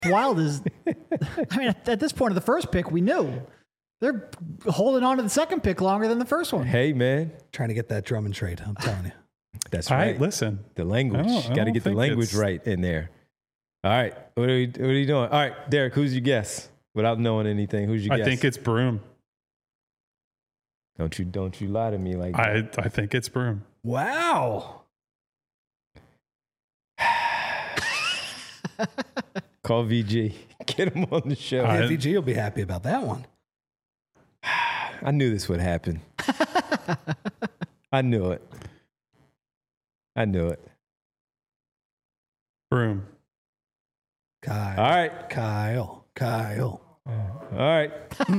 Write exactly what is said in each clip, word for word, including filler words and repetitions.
Wild is, I mean, at, at this point of the first pick, we knew they're holding on to the second pick longer than the first one. Hey, man. Trying to get that Drummond trade, I'm telling you. That's All right. right, listen. The language. I don't- I Got to don't get the think language it's- right in there. All right. What are, we, what are you doing? All right, Derek, who's your guess? Without knowing anything, who's your I guess? think it's Broom. Don't you, don't you lie to me like I, that. I think it's Broom. Wow. Call V G. Get him on the show. I- Yeah, V G will be happy about that one. I knew this would happen. I knew it. I knew it. Broom. Kyle. All right. Kyle. Kyle. All right.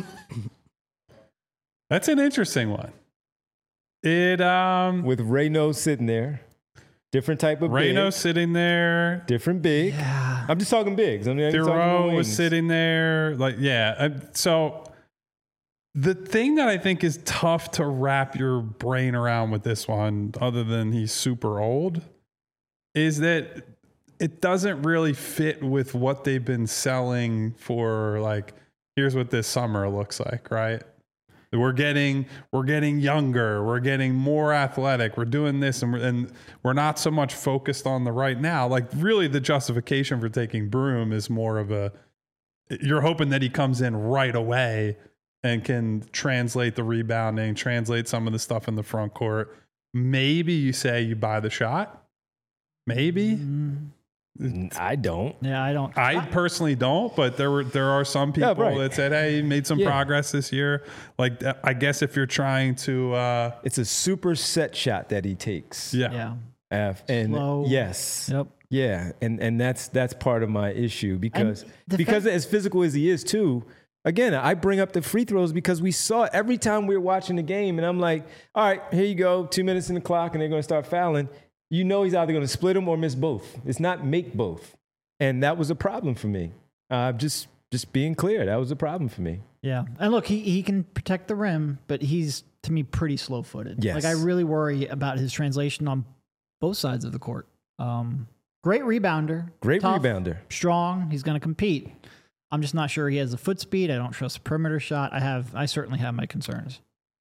That's an interesting one. It um With Reyno sitting there. Different type of Reyno big. sitting there. Different big. Yeah. I'm just talking bigs. I mean, I'm talking Thoreau was wings. sitting there. Like, yeah. Uh, so the thing that I think is tough to wrap your brain around with this one, other than he's super old, is that it doesn't really fit with what they've been selling for. Like, here's what this summer looks like, right? We're getting we're getting younger. We're getting more athletic. We're doing this, and we're, and we're not so much focused on the right now. Like, really, the justification for taking Broom is more of a you're hoping that he comes in right away and can translate the rebounding, translate some of the stuff in the front court. Maybe you say you buy the shot. Maybe. Mm, I don't. yeah, I don't. I personally don't, but there were there are some people Yeah, right. that said, "Hey, he made some Yeah. progress this year." Like, I guess if you're trying to, uh, It's a super set shot that he takes. yeah, yeah. Uh, and Slow. yes. Yep. Yeah, and and that's that's part of my issue because the because fact- as physical as he is too. Again, I bring up the free throws because we saw it every time we were watching the game, and I'm like, all right, here you go, two minutes in the clock, and they're going to start fouling. You know he's either going to split them or miss both. It's not make both, and that was a problem for me. Uh, just just being clear, that was a problem for me. Yeah. And look, he, he can protect the rim, but he's, to me, pretty slow footed. Yes. Like, I really worry about his translation on both sides of the court. Um, great rebounder. Great tough, rebounder. Strong. He's going to compete. I'm just not sure he has the foot speed. I don't trust the perimeter shot. I have, I certainly have my concerns.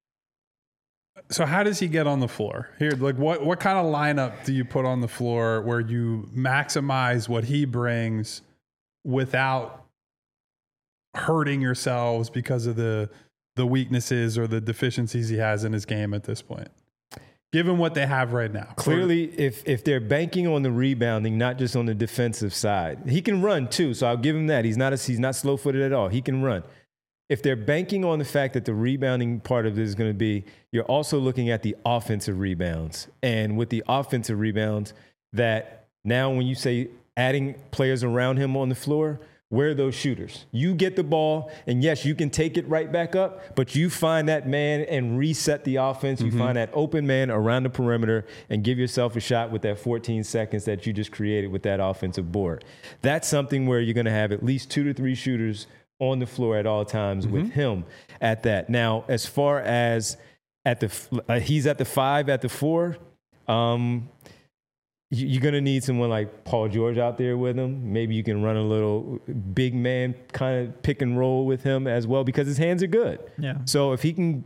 So how does he get on the floor? Here, like what what kind of lineup do you put on the floor where you maximize what he brings without hurting yourselves because of the the weaknesses or the deficiencies he has in his game at this point? Given what they have right now. Clearly, if if they're banking on the rebounding, not just on the defensive side, he can run too. So I'll give him that. He's not a, he's not slow footed at all. He can run. If they're banking on the fact that the rebounding part of it is going to be, you're also looking at the offensive rebounds. And with the offensive rebounds, that now when you say adding players around him on the floor, where are those shooters? You get the ball, and yes, you can take it right back up, but you find that man and reset the offense. You mm-hmm. find that open man around the perimeter and give yourself a shot with that fourteen seconds that you just created with that offensive board. That's something where you're going to have at least two to three shooters on the floor at all times mm-hmm. with him at that. Now, as far as at the uh, he's at the five, at the four, um, you, you're going to need someone like Paul George out there with him. Maybe you can run a little big man kind of pick and roll with him as well because his hands are good. Yeah. So if he can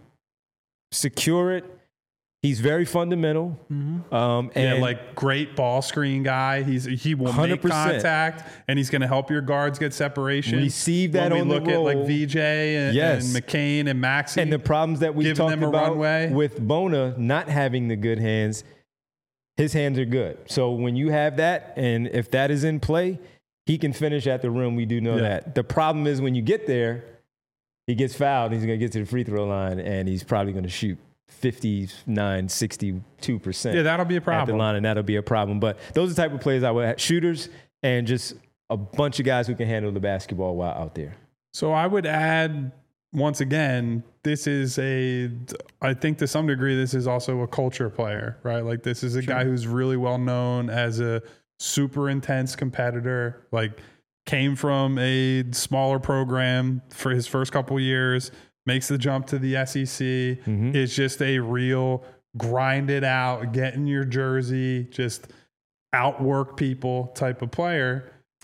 secure it, he's very fundamental. Mm-hmm. Um, and yeah, like great ball screen guy. He's he will one hundred percent make contact, and he's going to help your guards get separation. Receive that when on we the look roll. at like V J and, Yes. and McCain and Maxey. And the problems that we giving talked them a about runway. with Bona not having the good hands, his hands are good. So when you have that, and if that is in play, he can finish at the rim. We do know Yeah. that. The problem is when you get there, he gets fouled. He's going to get to the free throw line, and he's probably going to shoot fifty-nine, sixty-two percent. Yeah, that'll be a At the problem. line, and that'll be a problem. But those are the type of players I would have. Shooters and just a bunch of guys who can handle the basketball while out there. So I would add, once again, this is a, I think to some degree, this is also a culture player, right? Like this is a Sure. guy who's really well known as a super intense competitor, like came from a smaller program for his first couple years, makes the jump to the S E C, Mhm. is just a real grind it out, get in your jersey, just outwork people type of player.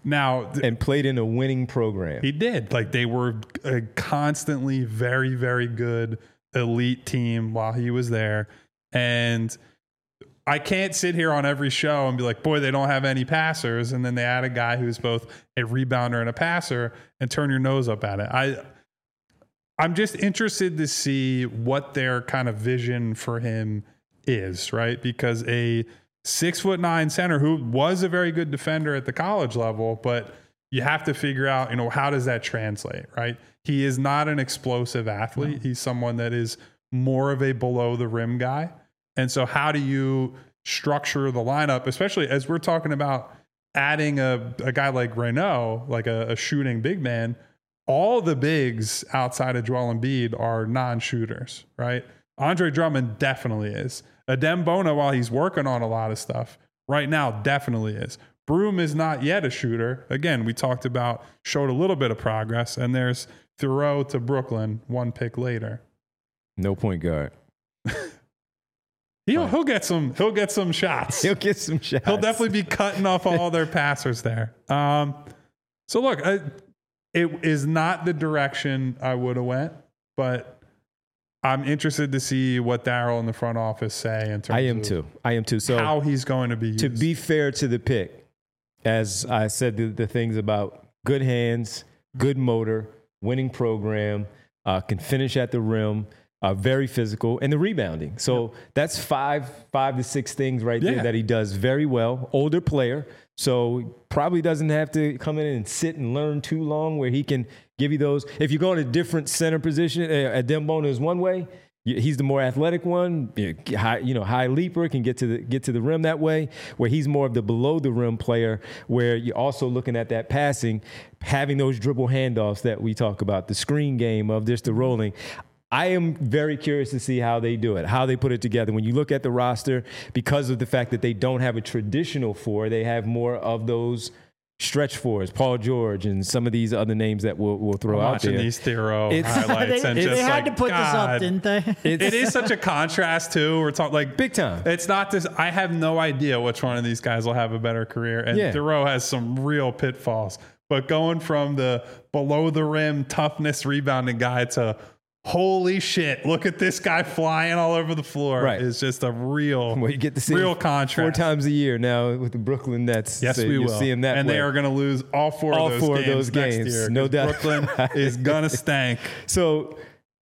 Now, th- and played in a winning program. he did. Like they were a constantly very, very good elite team while he was there. And I can't sit here on every show and be like, boy, they don't have any passers. And then they add a guy who's both a rebounder and a passer and turn your nose up at it. I, I'm just interested to see what their kind of vision for him is, right? Because a six foot nine center who was a very good defender at the college level, but you have to figure out, you know, how does that translate, right? He is not an explosive athlete. No. He's someone that is more of a below the rim guy. And so how do you structure the lineup, especially as we're talking about adding a, a guy like Renaud, like a, a shooting big man? All the bigs outside of Joel Embiid are non-shooters, right? Andre Drummond definitely is. Adem Bona, while he's working on a lot of stuff, right now definitely is. Broom is not yet a shooter. Again, we talked about, showed a little bit of progress, and there's Thoreau to Brooklyn, one pick later. No point guard. He'll, he'll get some. He'll get some shots. He'll get some shots. He'll definitely be cutting off all their passers there. Um, so look, I, it is not the direction I would have went, but I'm interested to see what Daryl in the front office say in terms I am of too. I am too. So how he's going to be used. To be fair to the pick, as I said, the, the things about good hands, good motor, winning program, uh, can finish at the rim, uh, very physical, and the rebounding. So yep. that's five, five to six things right there yeah. that he does very well. Older player, so probably doesn't have to come in and sit and learn too long where he can give you those. If you go in a different center position, uh, Adem Bona is one way. He's the more athletic one, high, you know, high leaper, can get to the get to the rim that way, where he's more of the below the rim player, where you're also looking at that passing, having those dribble handoffs that we talk about, the screen game of just the rolling. I am very curious to see how they do it, how they put it together. When you look at the roster, because of the fact that they don't have a traditional four, they have more of those stretch fours, Paul George and some of these other names that we'll, we'll throw I'm out watching there. These Theroux highlights they, and they just had like, to put God, this up, didn't they? it is such a contrast too. We're talking like big time. It's not this. I have no idea which one of these guys will have a better career, and yeah. Theroux has some real pitfalls. But going from the below the rim toughness rebounding guy to holy shit, look at this guy flying all over the floor right. is just a real, well, you get to see real contrast. Four times a year now with the Brooklyn Nets. Yes, so we you'll will. see him that and way. they are going to lose all four all of those four games of those next games, year. no doubt. Brooklyn is going to stank. So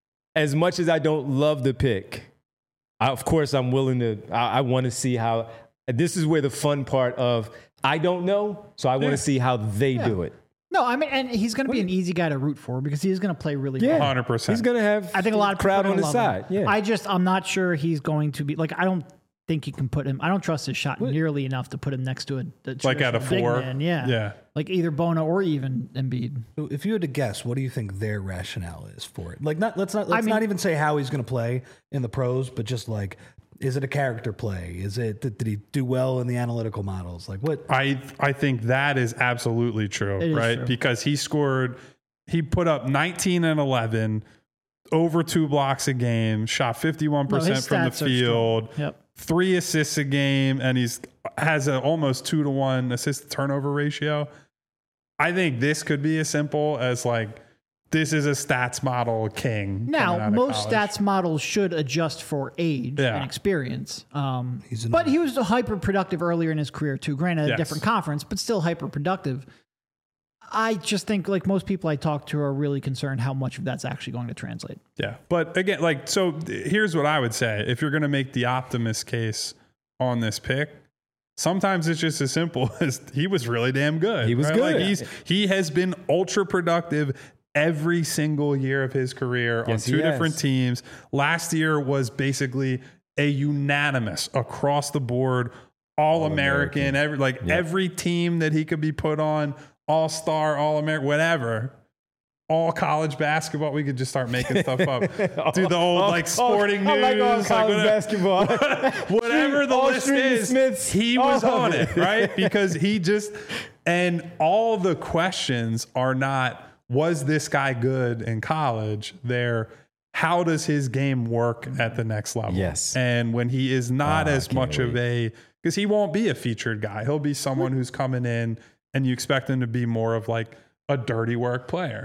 as much as I don't love the pick, I, of course I'm willing to, I, I want to see how, this is where the fun part of, I don't know, so I want to Yeah. see how they Yeah. do it. No, I mean, and he's going to be an easy guy to root for because he's going to play really Yeah. hard. one hundred percent. He's going to have I think a lot of people crowd are on gonna his love side. him. Yeah. I just, I'm not sure he's going to be like, I don't think you can put him, I don't trust his shot nearly enough to put him next to a, a Like at a traditional big four? man. Yeah. Yeah. Like either Bona or even Embiid. So if you had to guess, what do you think their rationale is for it? Like, not let's not let's I mean- not even say how he's going to play in the pros, but just like, is it a character play? Is it did, did he do well in the analytical models? Like what? I I think that is absolutely true, It is right? true. Because he scored, he put up nineteen and eleven, over two blocks a game, shot fifty-one No, percent his from the stats are field, strong. Yep. three assists a game, and he's has an almost two to one assist to turnover ratio. I think this could be as simple as like, this is a stats model king. coming Now, out of most college. stats models should adjust for age Yeah. and experience. Um, He's an- but he was hyper productive earlier in his career too. Granted, Yes. a different conference, but still hyper productive. I just think, like most people I talk to, are really concerned how much of that's actually going to translate. Yeah. But again, like, so here's what I would say. If you're going to make the optimist case on this pick, sometimes it's just as simple as he was really damn good. He was right? good. Like he's, he has been ultra productive every single year of his career Yes, on he two has. different teams. Last year was basically a unanimous across the board, all American, All-American. every, like Yep. every team that he could be put on, all-star, all-American, whatever. All college basketball. We could just start making stuff up. Do the old All- like sporting all- news, I like all like, college whatever, basketball. whatever the All list Street is. Smiths, he all was of on it. it, right? Because he just, and all the questions are not, was this guy good in college? They're, how does his game work at the next level? Yes. And when he is not Ah, I as can't much of wait. a, because he won't be a featured guy. He'll be someone who's coming in and you expect him to be more of like a dirty work player.